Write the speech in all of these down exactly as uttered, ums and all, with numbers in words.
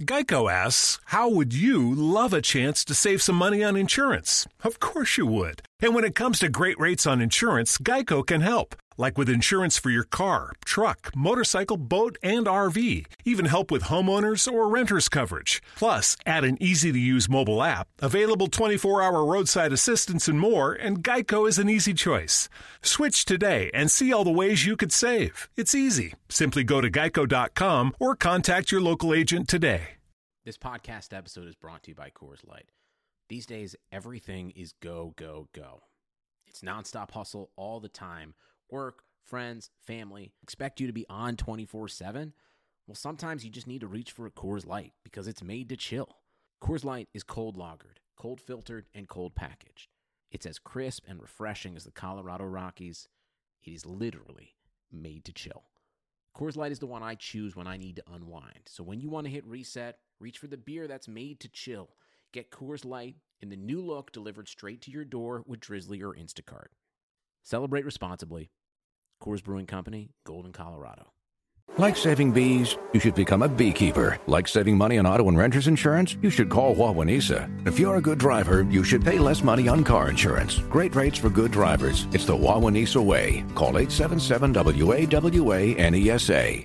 Geico asks, how would you love a chance to save some money on insurance? Of course you would. And when it comes to great rates on insurance, Geico can help. Like with insurance for your car, truck, motorcycle, boat, and R V. Even help with homeowners or renters coverage. Plus, add an easy-to-use mobile app, available twenty-four hour roadside assistance and more, and Geico is an easy choice. Switch today and see all the ways you could save. It's easy. Simply go to geico dot com or contact your local agent today. This podcast episode is brought to you by Coors Light. These days, everything is go, go, go. It's nonstop hustle all the time. Work, friends, family, expect you to be on twenty-four seven? Well, sometimes you just need to reach for a Coors Light because it's made to chill. Coors Light is cold lagered, cold filtered, and cold packaged. It's as crisp and refreshing as the Colorado Rockies. It is literally made to chill. Coors Light is the one I choose when I need to unwind. So when you want to hit reset, reach for the beer that's made to chill. Get Coors Light in the new look delivered straight to your door with Drizzly or Instacart. Celebrate responsibly. Coors Brewing Company, Golden, Colorado. Like saving bees, you should become a beekeeper. Like saving money on auto and renter's insurance, you should call Wawanesa. If you're a good driver, you should pay less money on car insurance. Great rates for good drivers. It's the Wawanesa way. Call eight seven seven W A W A N E S A.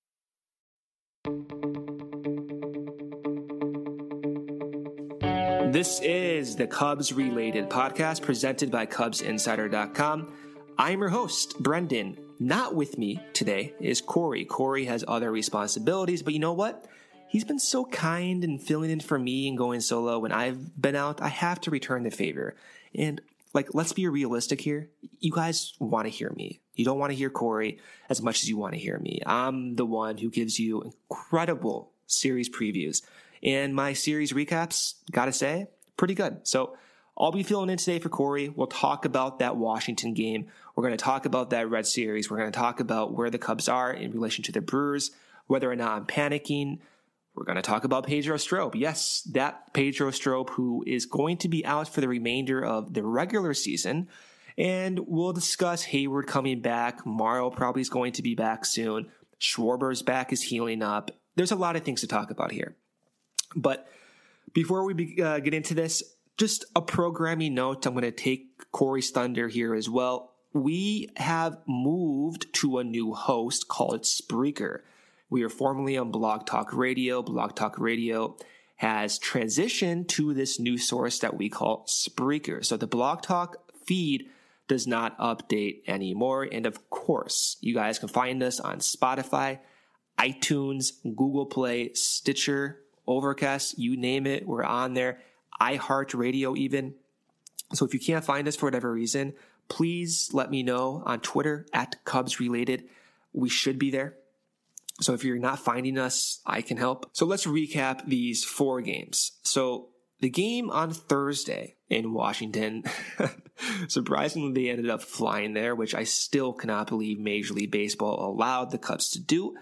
This is the Cubs Related podcast presented by Cubs Insider dot com. I'm your host, Brendan. Not with me today is Corey. Corey has other responsibilities, but you know what? He's been so kind and filling in for me and going solo when I've been out. I have to return the favor. And, like, let's be realistic here. You guys want to hear me. You don't want to hear Corey as much as you want to hear me. I'm the one who gives you incredible series previews. And my series recaps, gotta say, pretty good. So I'll be filling in today for Corey. We'll talk about that Washington game. We're going to talk about that Red Series. We're going to talk about where the Cubs are in relation to the Brewers, whether or not I'm panicking. We're going to talk about Pedro Strop. Yes, that Pedro Strop who is going to be out for the remainder of the regular season. And we'll discuss Hayward coming back. Morrow probably is going to be back soon. Schwarber's back is healing up. There's a lot of things to talk about here. But before we be, uh, get into this, just a programming note. I'm going to take Corey's thunder here as well. We have moved to a new host called Spreaker. We are formerly on Blog Talk Radio. Blog Talk Radio has transitioned to this new source that we call Spreaker. So the Blog Talk feed does not update anymore. And of course, you guys can find us on Spotify, iTunes, Google Play, Stitcher, Overcast, you name it, we're on there. iHeartRadio even. So if you can't find us for whatever reason, please let me know on Twitter at Cubs Related. We should be there. So if you're not finding us, I can help. So let's recap these four games. So the game on Thursday in Washington, surprisingly, they ended up flying there, which I still cannot believe Major League Baseball allowed the Cubs to do.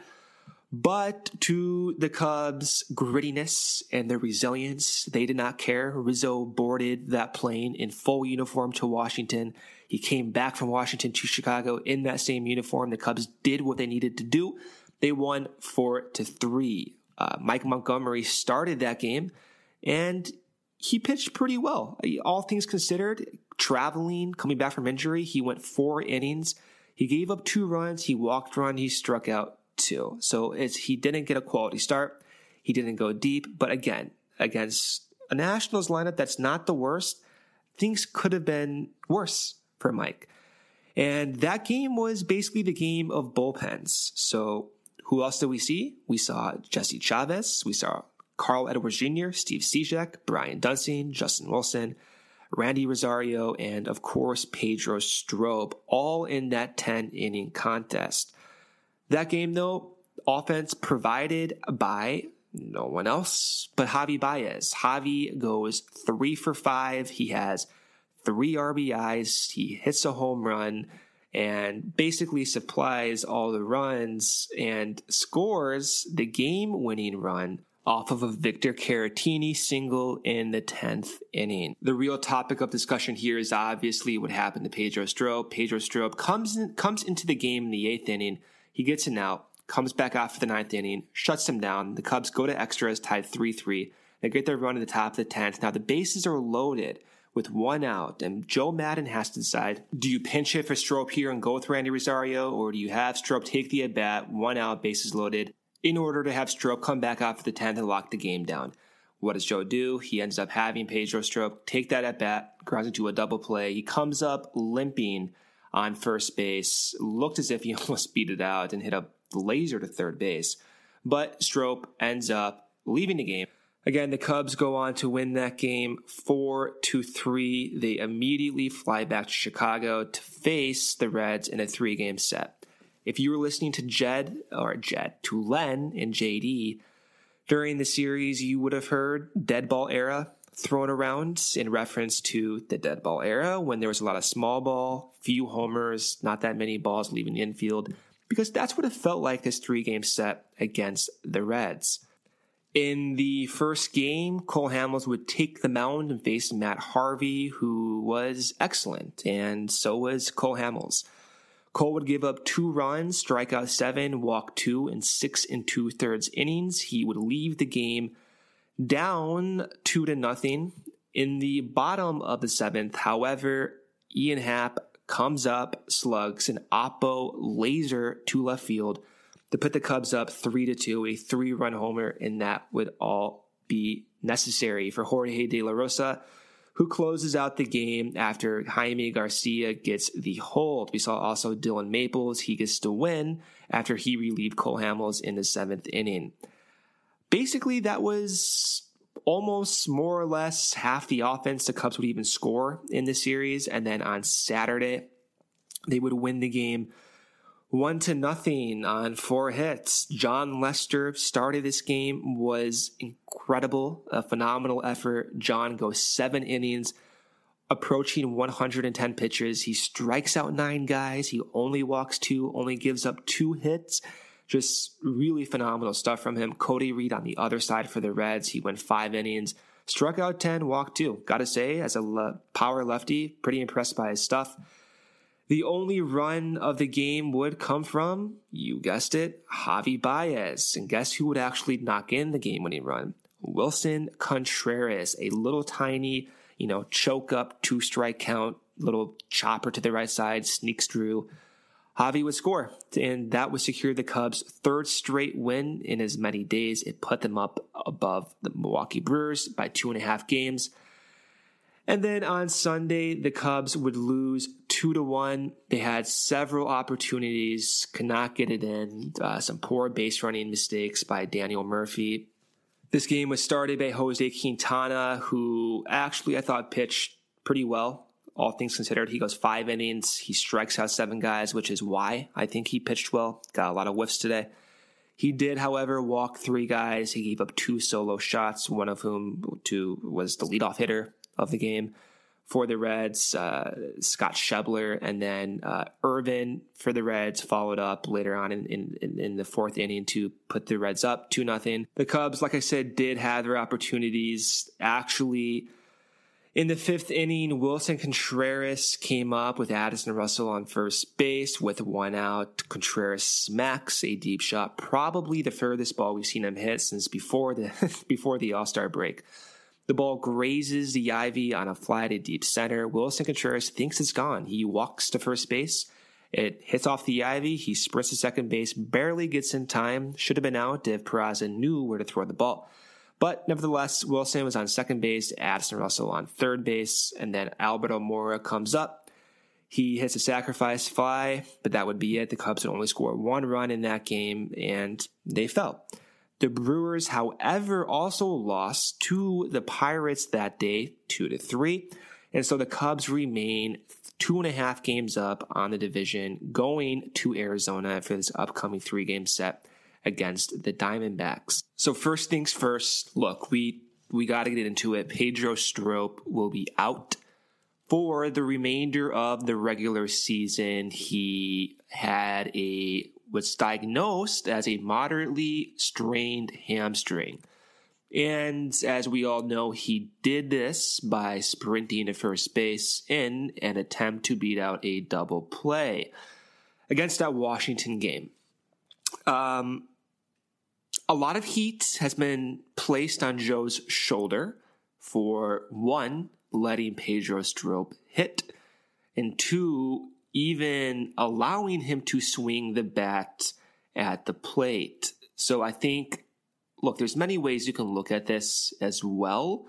But to the Cubs' grittiness and their resilience, they did not care. Rizzo boarded that plane in full uniform to Washington. He came back from Washington to Chicago in that same uniform. The Cubs did what they needed to do. They won four to three. Uh, Mike Montgomery started that game, and he pitched pretty well. All things considered, traveling, coming back from injury, he went four innings. He gave up two runs. He walked one. He struck out two. So it's, he didn't get a quality start. He didn't go deep. But again, against a Nationals lineup that's not the worst, things could have been worse for Mike. And that game was basically the game of bullpens. So who else did we see? We saw Jesse Chavez. We saw Carl Edwards Junior, Steve Cishek, Brian Dunsing, Justin Wilson, Randy Rosario, and of course, Pedro Strop, all in that ten-inning contest. That game, though, offense provided by no one else but Javi Baez. Javi goes three for five. He has three R B Is. He hits a home run and basically supplies all the runs and scores the game-winning run off of a Victor Caratini single in the tenth inning. The real topic of discussion here is obviously what happened to Pedro Strop. Pedro Strop comes in, comes into the game in the eighth inning. He gets an out, comes back out for the ninth inning, shuts them down. The Cubs go to extras, tied three three. They get their run to the top of the tenth. Now the bases are loaded with one out, and Joe Maddon has to decide, do you pinch hit for Strop here and go with Randy Rosario, or do you have Strop take the at-bat, one out, bases loaded, in order to have Strop come back out for the tenth and lock the game down? What does Joe do? He ends up having Pedro Strop take that at-bat, grounds into a double play. He comes up limping on first base, looked as if he almost beat it out and hit a laser to third base. But Strop ends up leaving the game. Again, the Cubs go on to win that game four to three. They immediately fly back to Chicago to face the Reds in a three-game set. If you were listening to Jed, or Jed, to Len and J D during the series, you would have heard dead ball era thrown around in reference to the dead ball era when there was a lot of small ball, few homers, not that many balls leaving the infield, because that's what it felt like this three-game set against the Reds. In the first game, Cole Hamels would take the mound and face Matt Harvey, who was excellent, and so was Cole Hamels. Cole would give up two runs, strike out seven, walk two, in six and two-thirds innings. He would leave the game down two to nothing. In the bottom of the seventh, however, Ian Happ comes up, slugs an oppo laser to left field to put the Cubs up three to two, a three-run homer, and that would all be necessary for Jorge De La Rosa, who closes out the game after Jaime Garcia gets the hold. We saw also Dylan Maples. He gets the win after he relieved Cole Hamels in the seventh inning. Basically, that was almost more or less half the offense the Cubs would even score in the series. And then on Saturday, they would win the game One to nothing on four hits. John Lester started this game, was incredible, a phenomenal effort. John goes seven innings, approaching one hundred ten pitches. He strikes out nine guys. He only walks two, only gives up two hits. Just really phenomenal stuff from him. Cody Reed on the other side for the Reds. He went five innings, struck out ten, walked two. Gotta say, as a le- power lefty, pretty impressed by his stuff. The only run of the game would come from, you guessed it, Javi Baez. And guess who would actually knock in the game-winning run? Willson Contreras, a little tiny, you know, choke up, two-strike count, little chopper to the right side, sneaks through. Javi would score, and that would secure the Cubs' third straight win in as many days. It put them up above the Milwaukee Brewers by two and a half games. And then on Sunday, the Cubs would lose two to one. They had several opportunities, could not get it in. Uh, some poor base running mistakes by Daniel Murphy. This game was started by Jose Quintana, who actually I thought pitched pretty well, all things considered. He goes five innings. He strikes out seven guys, which is why I think he pitched well. Got a lot of whiffs today. He did, however, walk three guys. He gave up two solo shots, one of whom to, was the leadoff hitter of the game for the Reds, uh, Scott Schebler, and then uh, Irvin for the Reds followed up later on in, in, in the fourth inning to put the Reds up two nothing. The Cubs, like I said, did have their opportunities. Actually, in the fifth inning, Willson Contreras came up with Addison Russell on first base with one out. Contreras smacks a deep shot, probably the furthest ball we've seen him hit since before the before the All-Star break. The ball grazes the ivy on a fly to deep center. Willson Contreras thinks it's gone. He walks to first base. It hits off the ivy. He sprints to second base, barely gets in time. Should have been out if Peraza knew where to throw the ball. But nevertheless, Willson was on second base, Addison Russell on third base, and then Alberto Mora comes up. He hits a sacrifice fly, but that would be it. The Cubs would only score one run in that game, and they fell. The Brewers, however, also lost to the Pirates that day, two to three. And so the Cubs remain two and a half games up on the division, going to Arizona for this upcoming three-game set against the Diamondbacks. So first things first, look, we we got to get into it. Pedro Strop will be out for the remainder of the regular season. He had a was diagnosed as a moderately strained hamstring. And as we all know, he did this by sprinting to first base in an attempt to beat out a double play against that Washington game. Um, a lot of heat has been placed on Joe's shoulder for, one, letting Pedro Strop hit, and two, even allowing him to swing the bat at the plate. So I think, look, there's many ways you can look at this as well.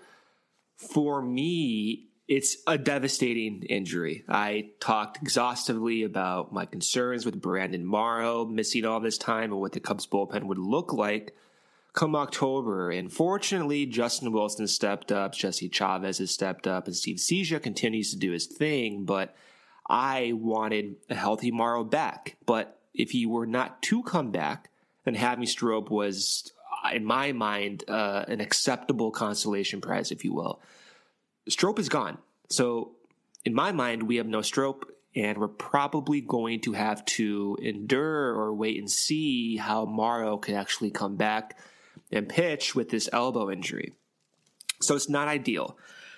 For me, it's a devastating injury. I talked exhaustively about my concerns with Brandon Morrow missing all this time and what the Cubs bullpen would look like come October. And fortunately, Justin Wilson stepped up, Jesse Chavez has stepped up, and Steve Cigna continues to do his thing. But I wanted a healthy Morrow back. But if he were not to come back, then having Strop was, in my mind, uh, an acceptable consolation prize, if you will. Strop is gone. So in my mind, we have no Strop, and we're probably going to have to endure or wait and see how Morrow can actually come back and pitch with this elbow injury. So it's not ideal.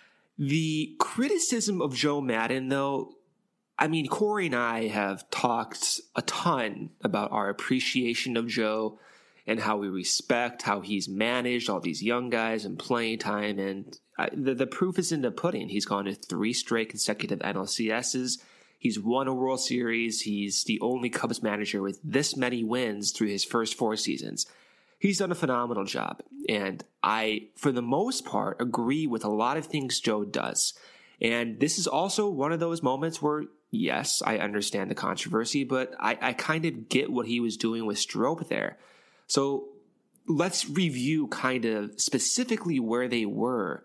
The criticism of Joe Maddon, though, I mean, Corey and I have talked a ton about our appreciation of Joe and how we respect how he's managed all these young guys and playing time. And I, the, the proof is in the pudding. He's gone to three straight consecutive N L C S's. He's won a World Series. He's the only Cubs manager with this many wins through his first four seasons. He's done a phenomenal job. And I, for the most part, agree with a lot of things Joe does. And this is also one of those moments where, yes, I understand the controversy, but I, I kind of get what he was doing with Strop there. So let's review kind of specifically where they were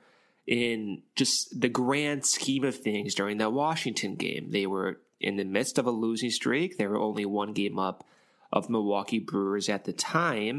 in just the grand scheme of things during that Washington game. They were in the midst of a losing streak. They were only one game up of Milwaukee Brewers at the time.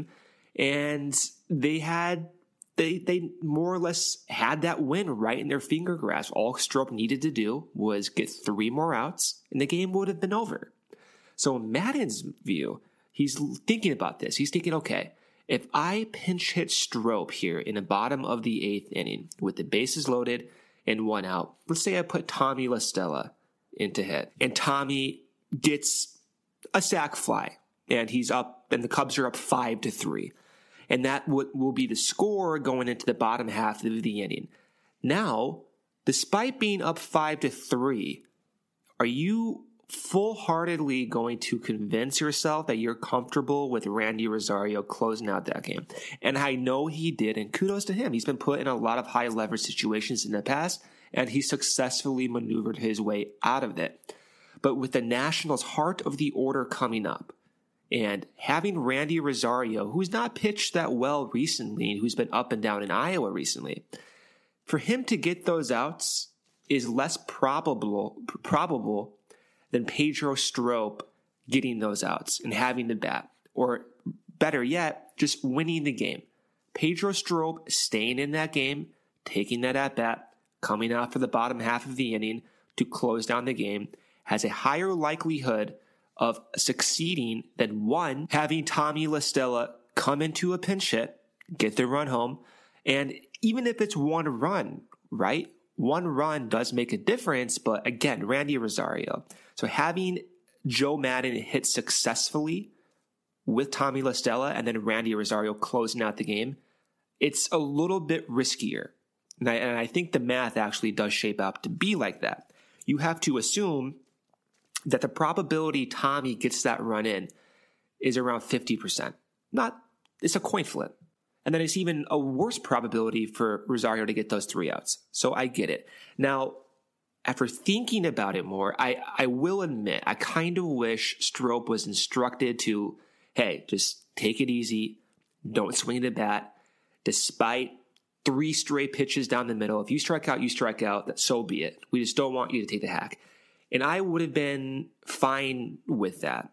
And they had, they, they more or less had that win right in their finger grasp. All Strop needed to do was get three more outs and the game would have been over. So in Maddon's view, he's thinking about this. He's thinking, okay, if I pinch hit Strop here in the bottom of the eighth inning with the bases loaded and one out, let's say I put Tommy La Stella into hit, and Tommy gets a sac fly, and he's up, and the Cubs are up five to three, and that w- will be the score going into the bottom half of the inning. Now, despite being up five to three, are you full-heartedly going to convince yourself that you're comfortable with Randy Rosario closing out that game? And I know he did, and kudos to him. He's been put in a lot of high-leverage situations in the past, and he successfully maneuvered his way out of it. But with the Nationals' heart of the order coming up, and having Randy Rosario, who's not pitched that well recently, and who's been up and down in Iowa recently, for him to get those outs is less probable probable than Pedro Strop getting those outs and having the bat. Or better yet, just winning the game. Pedro Strop staying in that game, taking that at-bat, coming out for the bottom half of the inning to close down the game, has a higher likelihood of succeeding than, one, having Tommy La Stella come into a pinch hit, get the run home, and even if it's one run, right? One run does make a difference, but again, Randy Rosario. So having Joe Maddon hit successfully with Tommy La Stella and then Randy Rosario closing out the game, it's a little bit riskier. And I, and I think the math actually does shape up to be like that. You have to assume that the probability Tommy gets that run in is around fifty percent. Not, it's a coin flip. And then it's even a worse probability for Rosario to get those three outs. So I get it. Now, after thinking about it more, I, I will admit, I kind of wish Strop was instructed to, hey, just take it easy. Don't swing the bat. Despite three straight pitches down the middle, if you strike out, you strike out. So be it. We just don't want you to take the hack. And I would have been fine with that.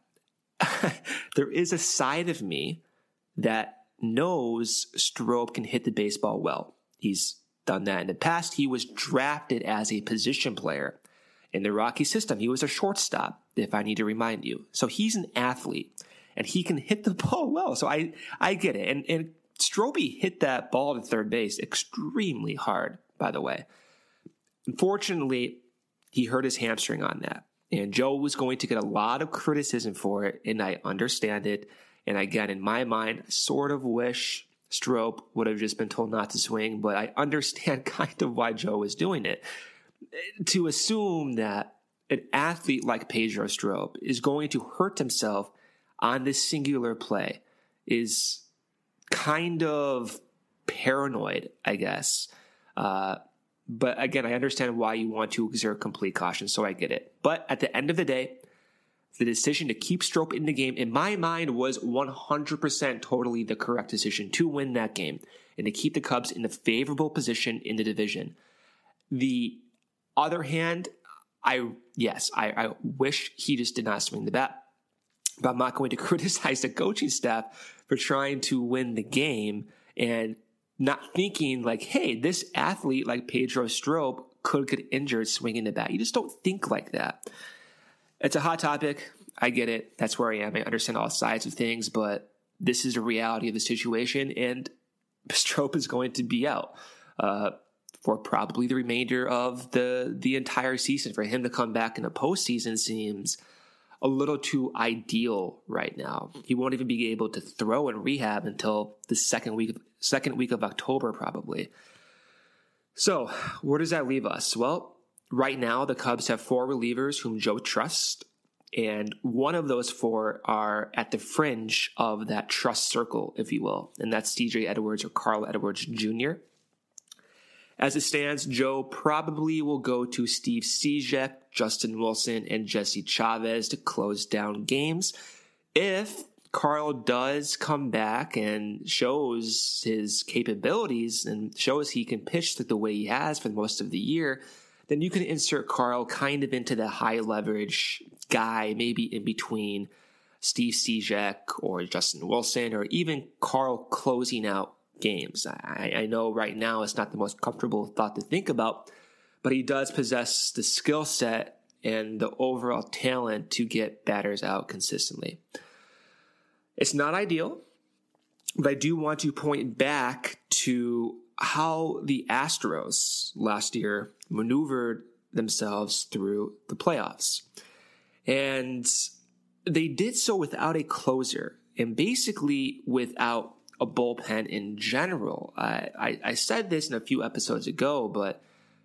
There is a side of me that knows Strop can hit the baseball well. He's done that in the past. He was drafted as a position player in the Rocky system. He was a shortstop, if I need to remind you. So he's an athlete, and he can hit the ball well. So I, I get it. And, and Strobey hit that ball to third base extremely hard, by the way. Unfortunately, he hurt his hamstring on that. And Joe was going to get a lot of criticism for it, and I understand it. And again, in my mind, I sort of wish Strop would have just been told not to swing, but I understand kind of why Joe was doing it. To assume that an athlete like Pedro Strop is going to hurt himself on this singular play is kind of paranoid, I guess. Uh, but again, I understand why you want to exert complete caution, so I get it. But at the end of the day, the decision to keep Strop in the game, in my mind, was one hundred percent totally the correct decision to win that game and to keep the Cubs in a favorable position in the division. The other hand, I yes, I, I wish he just did not swing the bat, but I'm not going to criticize the coaching staff for trying to win the game and not thinking like, hey, this athlete like Pedro Strop could get injured swinging the bat. You just don't think like that. It's a hot topic. I get it. That's where I am. I understand all sides of things, but this is the reality of the situation, and Strop is going to be out uh, for probably the remainder of the the entire season. For him to come back in the postseason seems a little too ideal right now. He won't even be able to throw in rehab until the second week, second week of October, probably. So where does that leave us? Well, right now, the Cubs have four relievers whom Joe trusts, and one of those four are at the fringe of that trust circle, if you will, and that's C J Edwards or Carl Edwards Junior As it stands, Joe probably will go to Steve Cishek, Justin Wilson, and Jesse Chavez to close down games. If Carl does come back and shows his capabilities and shows he can pitch the way he has for most of the year, then you can insert Carl kind of into the high leverage guy, maybe in between Steve Cishek or Justin Wilson, or even Carl closing out games. I, I know right now it's not the most comfortable thought to think about, but he does possess the skill set and the overall talent to get batters out consistently. It's not ideal, but I do want to point back to how the Astros last year maneuvered themselves through the playoffs. And they did so without a closer and basically without a bullpen in general. I, I, I said this in a few episodes ago, but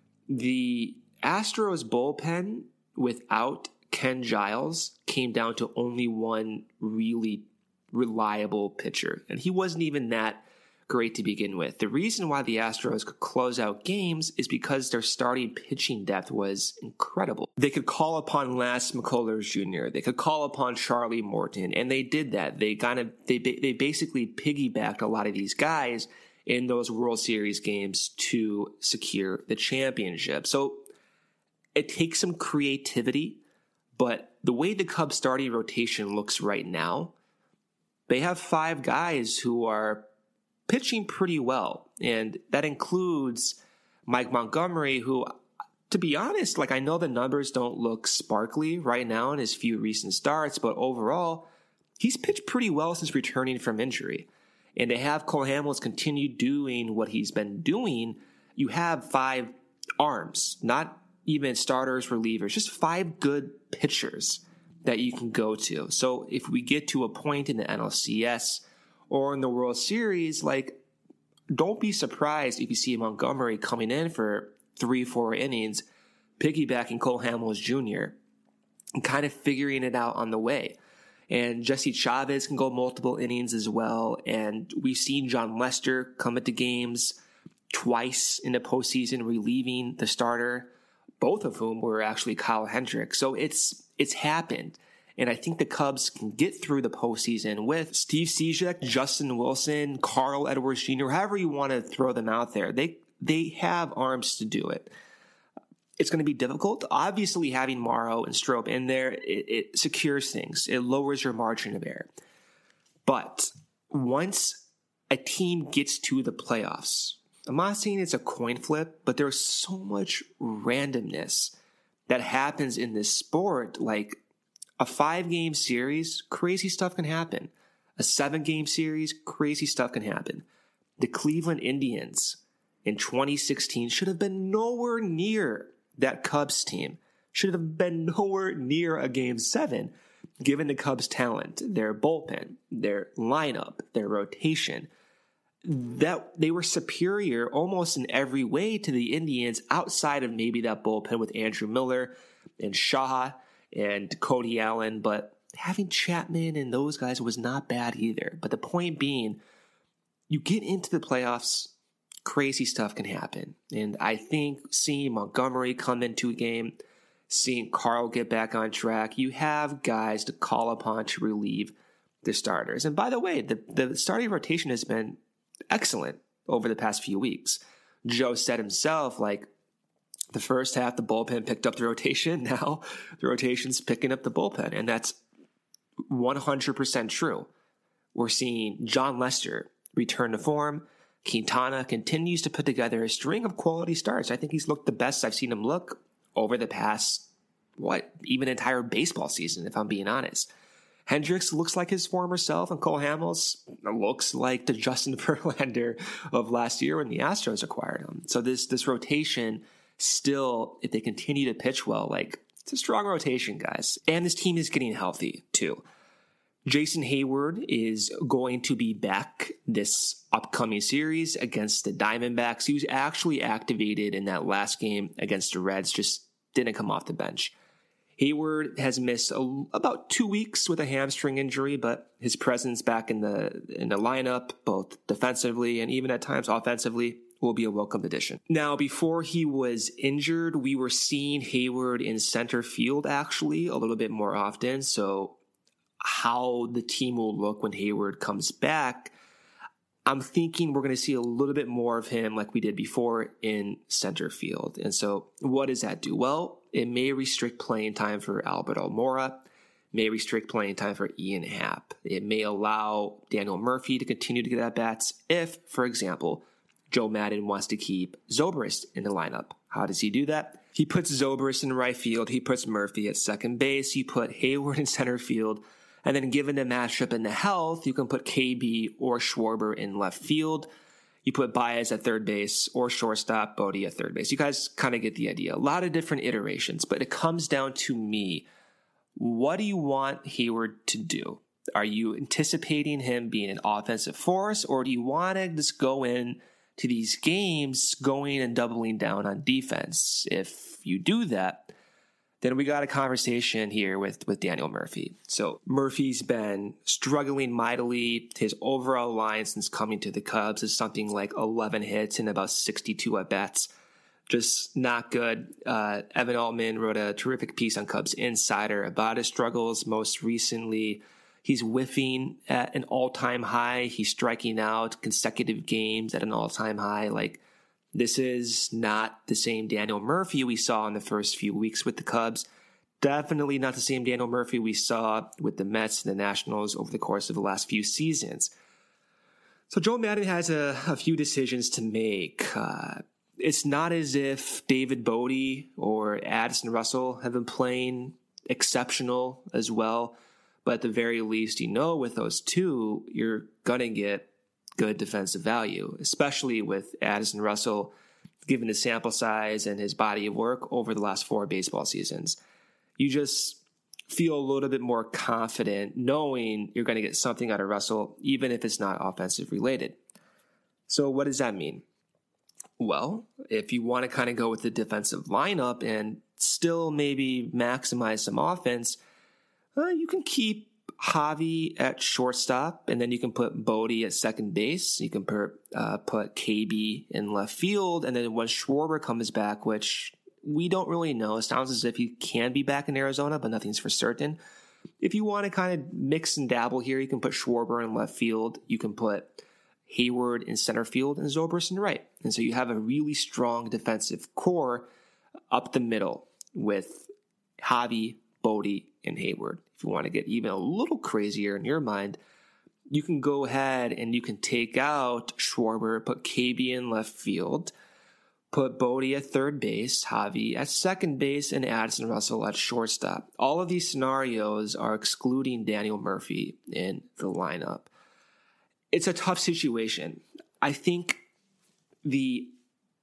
the Astros bullpen without Ken Giles came down to only one really reliable pitcher, and he wasn't even that great to begin with. The reason why the Astros could close out games is because their starting pitching depth was incredible. They could call upon Lance McCullers Junior They could call upon Charlie Morton, and they did that. They kind of they they basically piggybacked a lot of these guys in those World Series games to secure the championship. So it takes some creativity, but the way the Cubs starting rotation looks right now, they have five guys who are pitching pretty well, and that includes Mike Montgomery, who, to be honest, like I know the numbers don't look sparkly right now in his few recent starts, but overall, he's pitched pretty well since returning from injury. And to have Cole Hamels continue doing what he's been doing, you have five arms, not even starters, relievers, just five good pitchers that you can go to. So if we get to a point in the N L C S or in the World Series, like, don't be surprised if you see Montgomery coming in for three, four innings, piggybacking Cole Hamels Junior and kind of figuring it out on the way. And Jesse Chavez can go multiple innings as well. And we've seen John Lester come into games twice in the postseason, relieving the starter, both of whom were actually Kyle Hendricks. So it's it's happened. And I think the Cubs can get through the postseason with Steve Cishek, Justin Wilson, Carl Edwards Junior, however you want to throw them out there. They they have arms to do it. It's going to be difficult. Obviously, having Morrow and Strop in there, it, it secures things. It lowers your margin of error. But once a team gets to the playoffs, I'm not saying it's a coin flip, but there's so much randomness that happens in this sport. Like a five-game series, crazy stuff can happen. A seven-game series, crazy stuff can happen. The Cleveland Indians in twenty sixteen should have been nowhere near that Cubs team. Should have been nowhere near a game seven. given the Cubs' talent, their bullpen, their lineup, their rotation, that they were superior almost in every way to the Indians outside of maybe that bullpen with Andrew Miller and Shaw and Cody Allen. But having Chapman and those guys was not bad either. But the point being, you get into the playoffs, crazy stuff can happen. And I think seeing Montgomery come into a game, seeing Carl get back on track, you have guys to call upon to relieve the starters. And by the way, the, the starting rotation has been excellent over the past few weeks. Joe said himself, like, the first half, the bullpen picked up the rotation. Now the rotation's picking up the bullpen. And that's one hundred percent true. We're seeing John Lester return to form. Quintana continues to put together a string of quality starts. I think he's looked the best I've seen him look over the past, what, even entire baseball season, if I'm being honest. Hendricks looks like his former self, and Cole Hamels looks like the Justin Verlander of last year when the Astros acquired him. So this this rotation still, if they continue to pitch well, like, it's a strong rotation, guys. And this team is getting healthy, too. Jason Hayward is going to be back this upcoming series against the Diamondbacks. He was actually activated in that last game against the Reds, just didn't come off the bench. Hayward has missed a, about two weeks with a hamstring injury, but his presence back in the in the lineup, both defensively and even at times offensively, will be a welcome addition. Now, before he was injured, we were seeing Hayward in center field actually a little bit more often. So how the team will look when Hayward comes back, I'm thinking we're going to see a little bit more of him like we did before in center field. And so what does that do? Well, it may restrict playing time for Albert Almora, may restrict playing time for Ian Happ. It may allow Daniel Murphy to continue to get at bats if, for example, Joe Maddon wants to keep Zobrist in the lineup. How does he do that? He puts Zobrist in right field. He puts Murphy at second base. You put Hayward in center field. And then given the matchup and the health, you can put K B or Schwarber in left field. You put Baez at third base or shortstop, Bodie at third base. You guys kind of get the idea. A lot of different iterations, but it comes down to me. What do you want Hayward to do? Are you anticipating him being an offensive force, or do you want to just go in to these games going and doubling down on defense? If you do that, then we got a conversation here with, with Daniel Murphy. So Murphy's been struggling mightily. His overall line since coming to the Cubs is something like eleven hits and about sixty-two at-bats. Just not good. Uh, Evan Altman wrote a terrific piece on Cubs Insider about his struggles. Most recently, he's whiffing at an all-time high. He's striking out consecutive games at an all-time high. Like, this is not the same Daniel Murphy we saw in the first few weeks with the Cubs. Definitely not the same Daniel Murphy we saw with the Mets and the Nationals over the course of the last few seasons. So Joe Maddon has a, a few decisions to make. Uh, it's not as if David Bodie or Addison Russell have been playing exceptional as well. But at the very least, you know, with those two, you're going to get good defensive value, especially with Addison Russell, given his sample size and his body of work over the last four baseball seasons. You just feel a little bit more confident knowing you're going to get something out of Russell, even if it's not offensive related. So what does that mean? Well, if you want to kind of go with the defensive lineup and still maybe maximize some offense, uh, you can keep Javi at shortstop, and then you can put Bodie at second base. You can put, uh, put K B in left field, and then when Schwarber comes back, which we don't really know, it sounds as if he can be back in Arizona, but nothing's for certain. If you want to kind of mix and dabble here, you can put Schwarber in left field. You can put Hayward in center field and Zobrist in right. And so you have a really strong defensive core up the middle with Javi, Bodie, and Hayward. If you want to get even a little crazier in your mind, you can go ahead and you can take out Schwarber, put K B in left field, put Bodie at third base, Javi at second base, and Addison Russell at shortstop. All of these scenarios are excluding Daniel Murphy in the lineup. It's a tough situation. I think the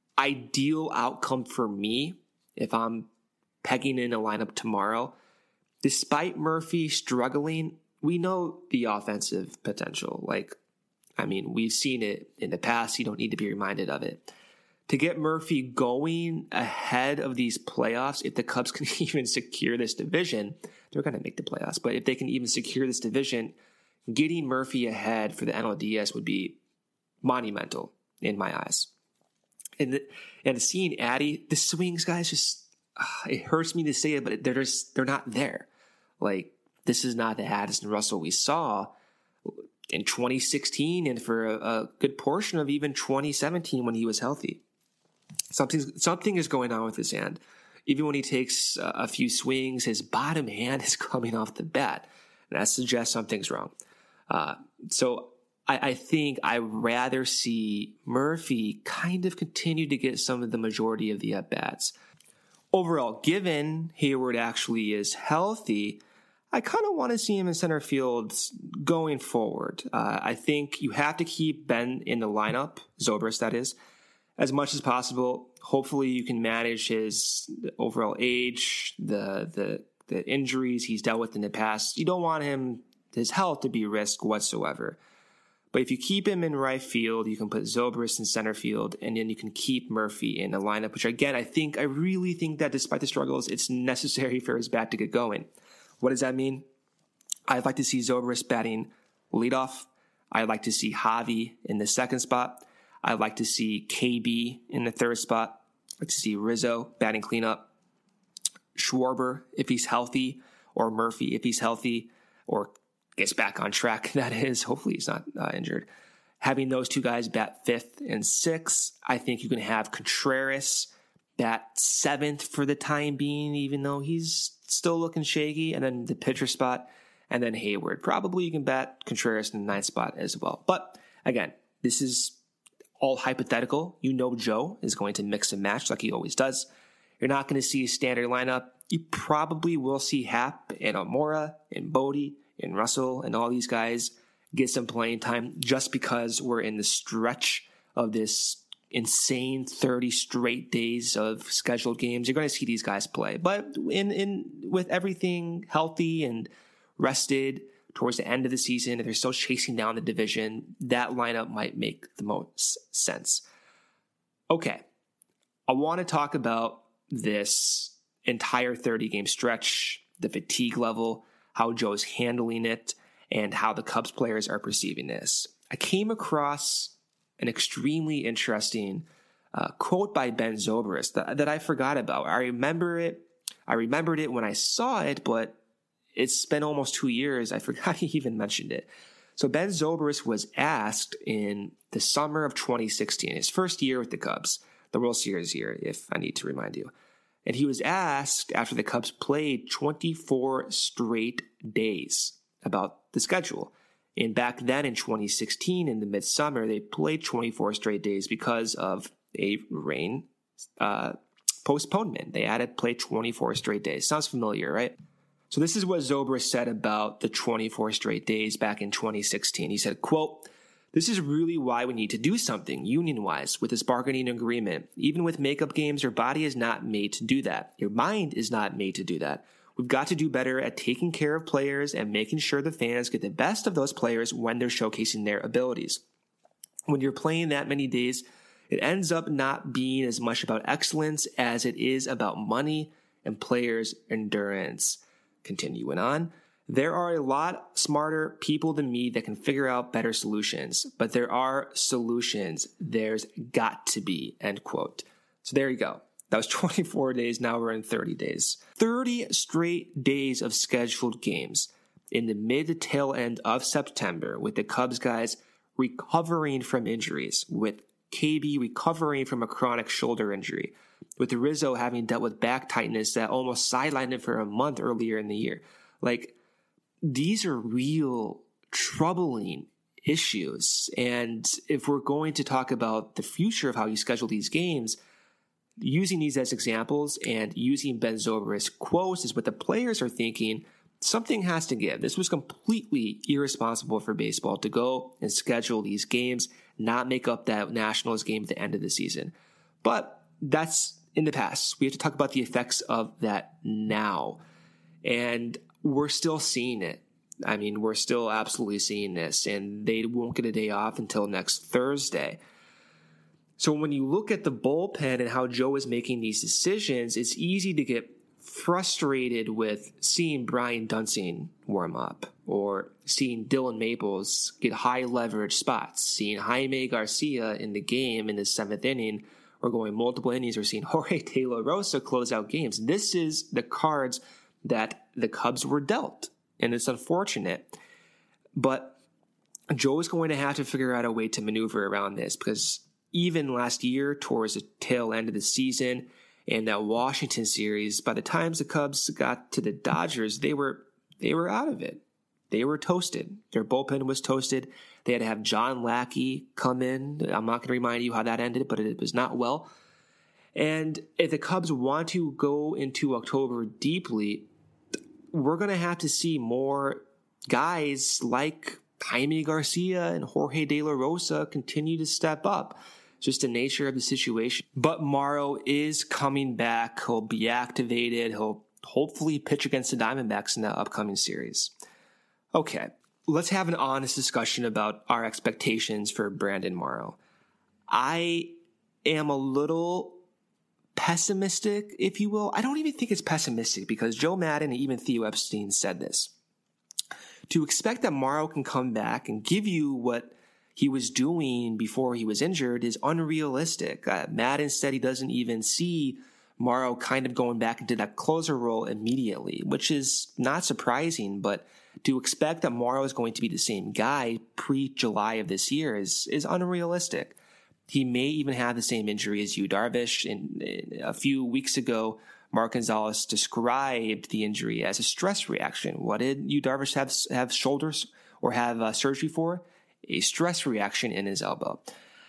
ideal outcome for me, if I'm pegging in a lineup tomorrow, despite Murphy struggling, we know the offensive potential. Like, I mean, we've seen it in the past. You don't need to be reminded of it. To get Murphy going ahead of these playoffs, if the Cubs can even secure this division, they're going to make the playoffs. But if they can even secure this division, getting Murphy ahead for the N L D S would be monumental in my eyes. And the, and seeing Addy, the swings, guys, just uh, it hurts me to say it, but they're just they're not there. Like, this is not the Addison Russell we saw in twenty sixteen and for a, a good portion of even twenty seventeen when he was healthy. Something something is going on with his hand. Even when he takes uh, a few swings, his bottom hand is coming off the bat. And that suggests something's wrong. Uh, so I, I think I'd rather see Murphy kind of continue to get some of the majority of the at-bats. Overall, given Hayward actually is healthy, I kind of want to see him in center field going forward. Uh, I think you have to keep Ben in the lineup, Zobrist that is, as much as possible. Hopefully you can manage his overall age, the the the injuries he's dealt with in the past. You don't want him, his health, to be risk whatsoever. But if you keep him in right field, you can put Zobrist in center field, and then you can keep Murphy in the lineup, which again, I think, I really think that despite the struggles, it's necessary for his bat to get going. What does that mean? I'd like to see Zobrist batting leadoff. I'd like to see Javi in the second spot. I'd like to see K B in the third spot. I'd like to see Rizzo batting cleanup. Schwarber, if he's healthy, or Murphy, if he's healthy, or gets back on track, that is. Hopefully he's not uh, injured. Having those two guys bat fifth and sixth, I think you can have Contreras bat seventh for the time being, even though he's still looking shaky, and then the pitcher spot, and then Hayward. Probably you can bat Contreras in the ninth spot as well. But again, this is all hypothetical. You know Joe is going to mix and match like he always does. You're not going to see a standard lineup. You probably will see Happ and Almora and Bodie and Russell and all these guys get some playing time just because we're in the stretch of this insane thirty straight days of scheduled games. You're going to see these guys play. But in in with everything healthy and rested towards the end of the season, if they're still chasing down the division, that lineup might make the most sense. Okay, I want to talk about this entire thirty-game stretch, the fatigue level, how Joe's handling it, and how the Cubs players are perceiving this. I came across an extremely interesting uh, quote by Ben Zobrist that, that I forgot about. I remember it. I remembered it when I saw it, but it's been almost two years. I forgot he even mentioned it. So Ben Zobrist was asked in the summer of twenty sixteen, his first year with the Cubs, the World Series year, if I need to remind you. And he was asked after the Cubs played twenty-four straight days about the schedule. And back then in twenty sixteen, in the midsummer, they played twenty-four straight days because of a rain uh, postponement. They had to play twenty-four straight days. Sounds familiar, right? So this is what Zobrist said about the twenty-four straight days back in twenty sixteen. He said, quote, "This is really why we need to do something union-wise with this bargaining agreement. Even with makeup games, your body is not made to do that. Your mind is not made to do that. We've got to do better at taking care of players and making sure the fans get the best of those players when they're showcasing their abilities. When you're playing that many days, it ends up not being as much about excellence as it is about money and players' endurance." Continuing on, "There are a lot smarter people than me that can figure out better solutions, but there are solutions. There's got to be," end quote. So there you go. That was twenty-four days. Now we're in thirty days. thirty straight days of scheduled games in the mid to tail end of September with the Cubs guys recovering from injuries, with K B recovering from a chronic shoulder injury, with Rizzo having dealt with back tightness that almost sidelined him for a month earlier in the year. Like, these are real troubling issues. And if we're going to talk about the future of how you schedule these games, using these as examples and using Ben Zobrist's quotes is what the players are thinking. Something has to give. This was completely irresponsible for baseball to go and schedule these games, not make up that Nationals game at the end of the season. But that's in the past. We have to talk about the effects of that now. And we're still seeing it. I mean, we're still absolutely seeing this, and they won't get a day off until next Thursday. So when you look at the bullpen and how Joe is making these decisions, it's easy to get frustrated with seeing Brian Dunsing warm up, or seeing Dylan Maples get high leverage spots, seeing Jaime Garcia in the game in the seventh inning, or going multiple innings, or seeing Jorge De La Rosa close out games. This is the cards that the Cubs were dealt, and it's unfortunate. But Joe is going to have to figure out a way to maneuver around this, because even last year, towards the tail end of the season, in that Washington series, by the time the Cubs got to the Dodgers, they were they were out of it. They were toasted. Their bullpen was toasted. They had to have John Lackey come in. I'm not going to remind you how that ended, but it was not well. And if the Cubs want to go into October deeply, we're going to have to see more guys like Jaime Garcia and Jorge De La Rosa continue to step up. Just the nature of the situation. But Morrow is coming back. He'll be activated. He'll hopefully pitch against the Diamondbacks in the upcoming series. Okay, let's have an honest discussion about our expectations for Brandon Morrow. I am a little pessimistic, if you will. I don't even think it's pessimistic, because Joe Maddon and even Theo Epstein said this. To expect that Morrow can come back and give you what he was doing before he was injured is unrealistic. Uh, Maddon said he doesn't even see Morrow kind of going back into that closer role immediately, which is not surprising, but to expect that Morrow is going to be the same guy pre-July of this year is, is unrealistic. He may even have the same injury as Yu Darvish. And a few weeks ago, Mark Gonzalez described the injury as a stress reaction. What did Yu Darvish have, have shoulders or have uh, surgery for? A stress reaction in his elbow.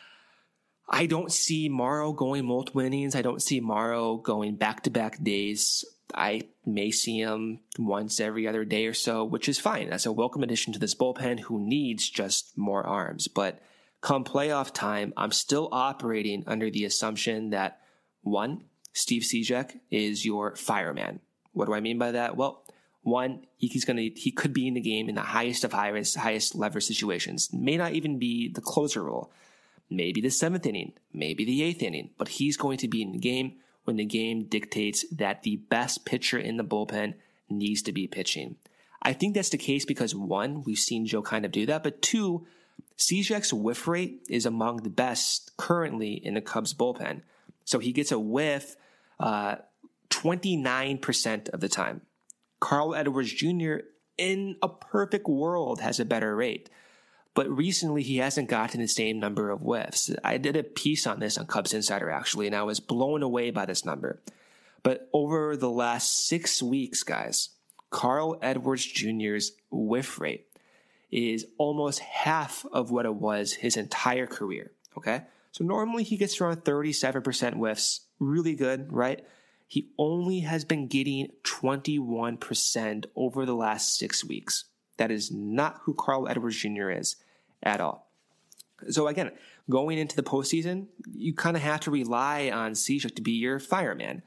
I don't see Morrow going multiple innings. I don't see Morrow going back-to-back days. I may see him once every other day or so, which is fine. That's a welcome addition to this bullpen who needs just more arms. But come playoff time, I'm still operating under the assumption that, one, Steve Cishek is your fireman. What do I mean by that? Well, one, he's gonna he could be in the game in the highest of highest highest lever situations. May not even be the closer role. Maybe the seventh inning, maybe the eighth inning, but he's going to be in the game when the game dictates that the best pitcher in the bullpen needs to be pitching. I think that's the case because, one, we've seen Joe kind of do that, but two, Cishek's whiff rate is among the best currently in the Cubs bullpen. So he gets a whiff uh, twenty-nine percent of the time. Carl Edwards Junior, in a perfect world, has a better rate. But recently, he hasn't gotten the same number of whiffs. I did a piece on this on Cubs Insider, actually, and I was blown away by this number. But over the last six weeks, guys, Carl Edwards Junior's whiff rate is almost half of what it was his entire career, okay? So normally he gets around thirty-seven percent whiffs. Really good, right? He only has been getting twenty-one percent over the last six weeks. That is not who Carl Edwards Junior is at all. So again, going into the postseason, you kind of have to rely on Cishek to be your fireman.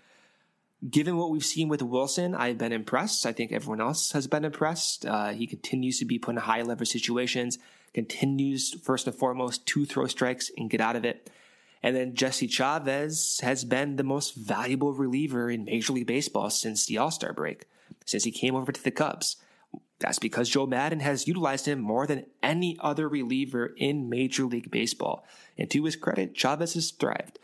Given what we've seen with Wilson, I've been impressed. I think everyone else has been impressed. Uh, he continues to be put in high leverage situations, continues first and foremost to throw strikes and get out of it. And then Jesse Chavez has been the most valuable reliever in Major League Baseball since the All-Star break, since he came over to the Cubs. That's because Joe Maddon has utilized him more than any other reliever in Major League Baseball. And to his credit, Chavez has thrived.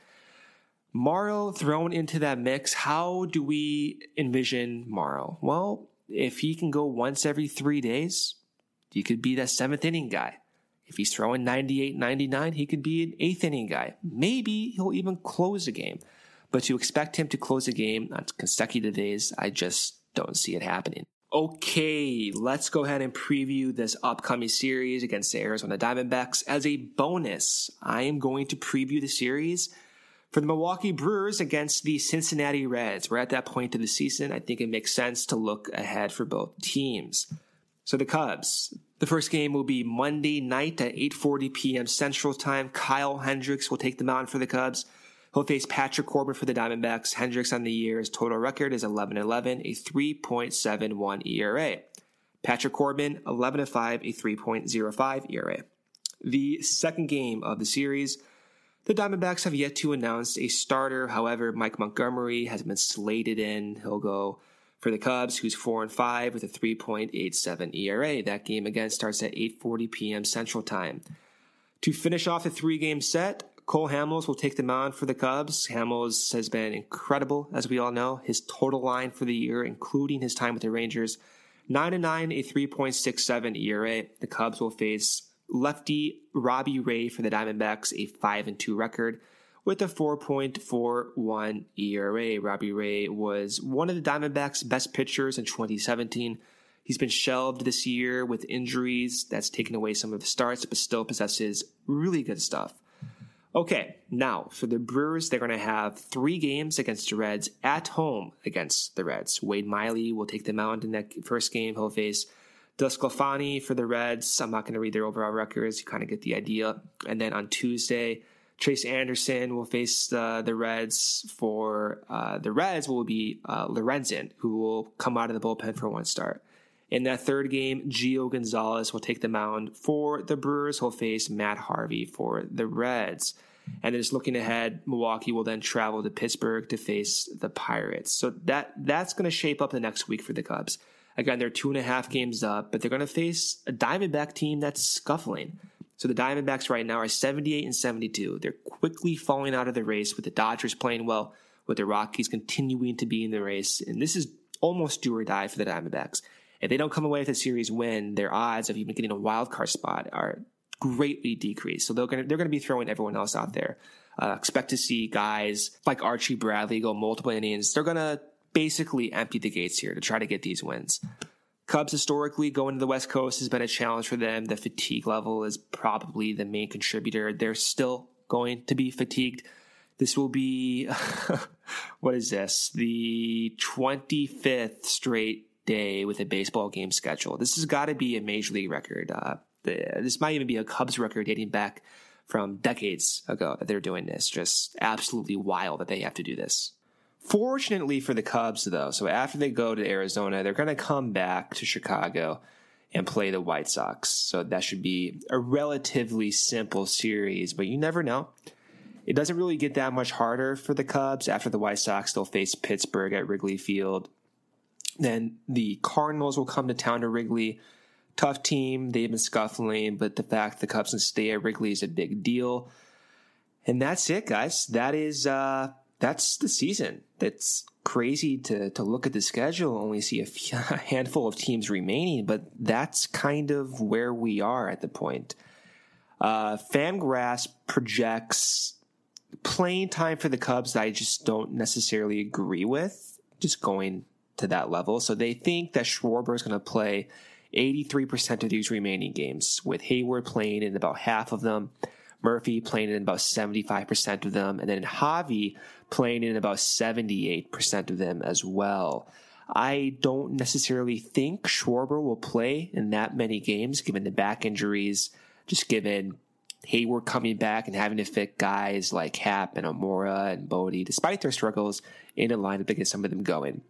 Morrow thrown into that mix, how do we envision Morrow? Well, if he can go once every three days, he could be that seventh inning guy. If he's throwing ninety-eight, ninety-nine, he could be an eighth inning guy. Maybe he'll even close a game. But to expect him to close a game on consecutive days, I just don't see it happening. Okay, let's go ahead and preview this upcoming series against the Arizona Diamondbacks. As a bonus, I am going to preview the series for the Milwaukee Brewers against the Cincinnati Reds. We're at that point of the season. I think it makes sense to look ahead for both teams. So the Cubs, the first game will be Monday night at eight forty p.m. Central Time. Kyle Hendricks will take the mound for the Cubs. He'll face Patrick Corbin for the Diamondbacks. Hendricks on the year, his total record is eleven and eleven, a three point seven one E R A. Patrick Corbin, eleven and five, a three point oh five E R A. The second game of the series, the Diamondbacks have yet to announce a starter. However, Mike Montgomery has been slated in. He'll go for the Cubs, who's four and five with a three point eight seven E R A. That game again starts at eight forty p.m. Central Time. To finish off the three-game set, Cole Hamels will take the mound for the Cubs. Hamels has been incredible, as we all know. His total line for the year, including his time with the Rangers, nine and nine, a three point six seven E R A. The Cubs will face lefty Robbie Ray for the Diamondbacks, a five and two record with a four point four one E R A. Robbie Ray was one of the Diamondbacks' best pitchers in twenty seventeen. He's been shelved this year with injuries. That's taken away some of the starts, but still possesses really good stuff. Okay, now for the Brewers, they're going to have three games against the Reds at home against the Reds. Wade Miley will take the mound in that first game. He'll face DeSclafani for the Reds. I'm not going to read their overall records. You kind of get the idea. And then on Tuesday, Chase Anderson will face uh, the Reds. For uh, the Reds will be uh, Lorenzen, who will come out of the bullpen for one start. In that third game, Gio Gonzalez will take the mound for the Brewers. He'll face Matt Harvey for the Reds. And then just looking ahead, Milwaukee will then travel to Pittsburgh to face the Pirates. So that that's going to shape up the next week for the Cubs. Again, they're two and a half games up, but they're going to face a Diamondback team that's scuffling. So the Diamondbacks right now are seventy-eight and seventy-two. They're quickly falling out of the race with the Dodgers playing well, with the Rockies continuing to be in the race. And this is almost do or die for the Diamondbacks. If they don't come away with a series win, their odds of even getting a wild card spot are greatly decreased. So they're going to, they're going to be throwing everyone else out there. Uh, expect to see guys like Archie Bradley go multiple innings. They're going to basically empty the gates here to try to get these wins. Cubs historically going to the West Coast has been a challenge for them. The fatigue level is probably the main contributor. They're still going to be fatigued. This will be, what is this? The twenty-fifth straight day with a baseball game schedule. This has got to be a major league record. Uh, the, this might even be a Cubs record dating back from decades ago that they're doing this. Just absolutely wild that they have to do this. Fortunately for the Cubs, though, so after they go to Arizona, they're going to come back to Chicago and play the White Sox. So that should be a relatively simple series, but you never know. It doesn't really get that much harder for the Cubs. After the White Sox, they'll face Pittsburgh at Wrigley Field. Then the Cardinals will come to town to Wrigley. Tough team. They've been scuffling, but the fact the Cubs can stay at Wrigley is a big deal. And that's it, guys. That is uh, that's the season. It's crazy to to look at the schedule, only see a, few, a handful of teams remaining, but that's kind of where we are at the point. Uh, Fangraphs projects playing time for the Cubs that I just don't necessarily agree with, just going to that level. So they think that Schwarber is going to play eighty-three percent of these remaining games, with Hayward playing in about half of them, Murphy playing in about seventy-five percent of them, and then Javi playing in about seventy-eight percent of them as well. I don't necessarily think Schwarber will play in that many games, given the back injuries, just given Hayward coming back and having to fit guys like Happ and Amora and Bodie, despite their struggles in a lineup to get some of them going.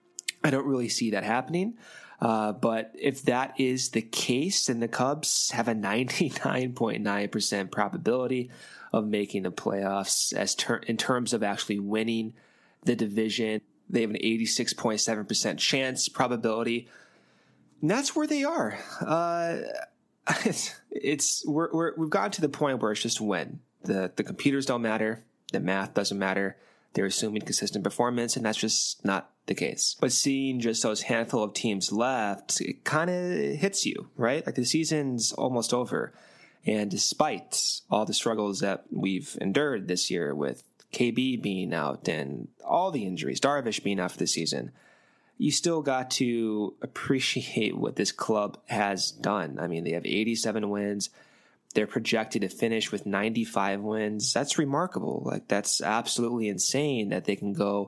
I don't really see that happening. Uh, but if that is the case, then the Cubs have a ninety-nine point nine percent probability of making the playoffs as ter- in terms of actually winning the division. They have an eighty-six point seven percent chance probability. And that's where they are. Uh, it's, it's we're, we're, we've gotten to the point where it's just win. The, the computers don't matter. The math doesn't matter. They're assuming consistent performance, and that's just not the case. But seeing just those handful of teams left, it kind of hits you, right? Like the season's almost over. And despite all the struggles that we've endured this year with K B being out and all the injuries, Darvish being out for the season, you still got to appreciate what this club has done. I mean, they have eighty-seven wins. They're projected to finish with ninety-five wins. That's remarkable. Like, that's absolutely insane that they can go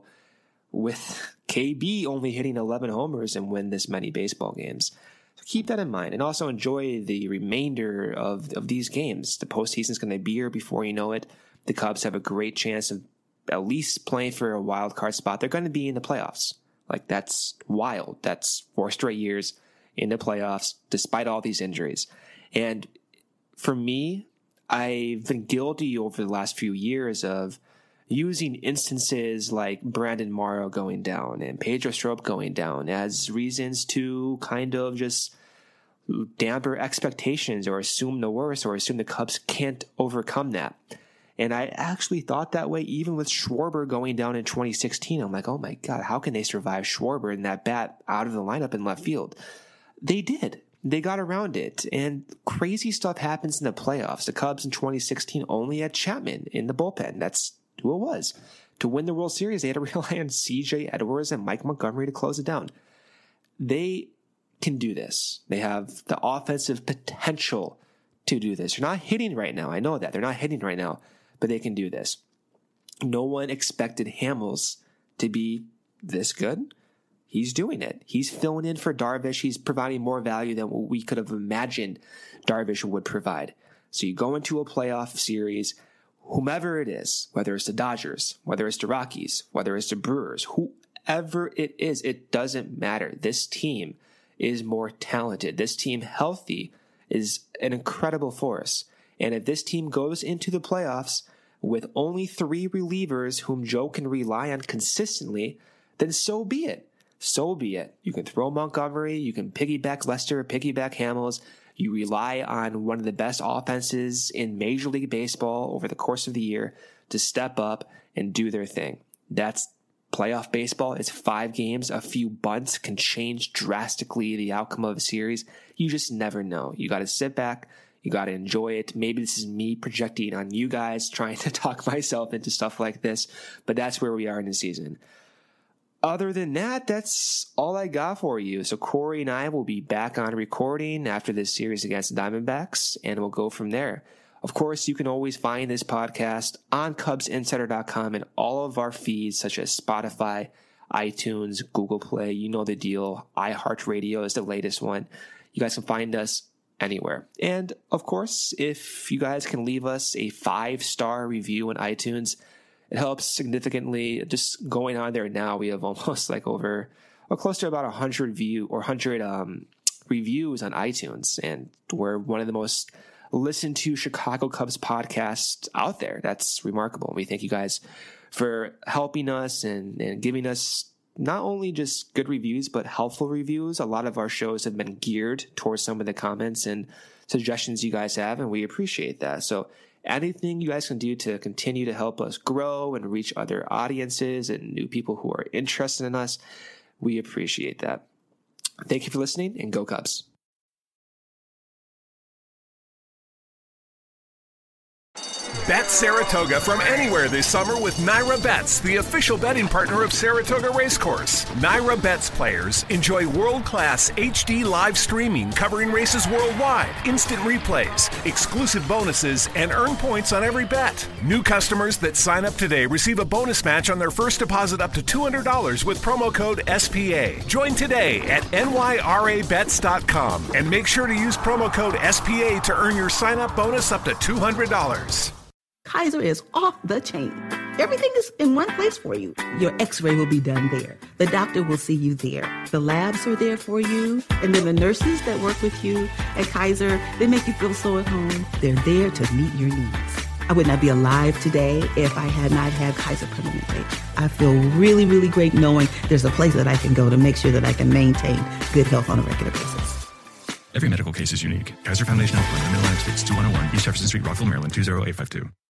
with K B only hitting eleven homers and win this many baseball games. So keep that in mind, and also enjoy the remainder of, of these games. The postseason is going to be here before you know it. The Cubs have a great chance of at least playing for a wild card spot. They're going to be in the playoffs. Like, that's wild. That's four straight years in the playoffs, despite all these injuries. And for me, I've been guilty over the last few years of using instances like Brandon Morrow going down and Pedro Strop going down as reasons to kind of just damper expectations or assume the worst or assume the Cubs can't overcome that. And I actually thought that way even with Schwarber going down in twenty sixteen. I'm like, oh my God, how can they survive Schwarber and that bat out of the lineup in left field? They did. They got around it. And crazy stuff happens in the playoffs. The Cubs in twenty sixteen only had Chapman in the bullpen. That's who it was. To win the World Series, they had to rely on C J Edwards and Mike Montgomery to close it down. They can do this. They have the offensive potential to do this. They're not hitting right now. I know that. They're not hitting right now. But they can do this. No one expected Hamels to be this good. He's doing it. He's filling in for Darvish. He's providing more value than what we could have imagined Darvish would provide. So you go into a playoff series, whomever it is, whether it's the Dodgers, whether it's the Rockies, whether it's the Brewers, whoever it is, it doesn't matter. This team is more talented. This team, healthy, is an incredible force. And if this team goes into the playoffs with only three relievers whom Joe can rely on consistently, then so be it. So be it. You can throw Montgomery, you can piggyback Lester, piggyback Hamels. You rely on one of the best offenses in Major League Baseball over the course of the year to step up and do their thing. That's playoff baseball. It's five games. A few bunts can change drastically the outcome of a series. You just never know. You got to sit back. You got to enjoy it. Maybe this is me projecting on you guys, trying to talk myself into stuff like this, but that's where we are in the season. Other than that, that's all I got for you. So Corey and I will be back on recording after this series against the Diamondbacks, and we'll go from there. Of course, you can always find this podcast on Cubs Insider dot com and all of our feeds such as Spotify, iTunes, Google Play. You know the deal. iHeartRadio is the latest one. You guys can find us anywhere. And of course, if you guys can leave us a five-star review on iTunes, it helps significantly. Just going on there now, we have almost like over, or close to about one hundred view or one hundred um, reviews on iTunes. And we're one of the most listened to Chicago Cubs podcasts out there. That's remarkable. We thank you guys for helping us and, and giving us not only just good reviews, but helpful reviews. A lot of our shows have been geared towards some of the comments and suggestions you guys have, and we appreciate that. So anything you guys can do to continue to help us grow and reach other audiences and new people who are interested in us, we appreciate that. Thank you for listening, and go Cubs. Bet Saratoga from anywhere this summer with Naira Bets, the official betting partner of Saratoga Racecourse. Naira Bets players enjoy world-class H D live streaming covering races worldwide, instant replays, exclusive bonuses, and earn points on every bet. New customers that sign up today receive a bonus match on their first deposit up to two hundred dollars with promo code S P A. Join today at N Y R A bets dot com and make sure to use promo code S P A to earn your sign-up bonus up to two hundred dollars. Kaiser is off the chain. Everything is in one place for you. Your x-ray will be done there. The doctor will see you there. The labs are there for you. And then the nurses that work with you at Kaiser, they make you feel so at home. They're there to meet your needs. I would not be alive today if I had not had Kaiser Permanente. I feel really, really great knowing there's a place that I can go to make sure that I can maintain good health on a regular basis. Every medical case is unique. Kaiser Foundation Health Plan, Middle United States, two one oh one East Jefferson Street, Rockville, Maryland, two zero eight five two.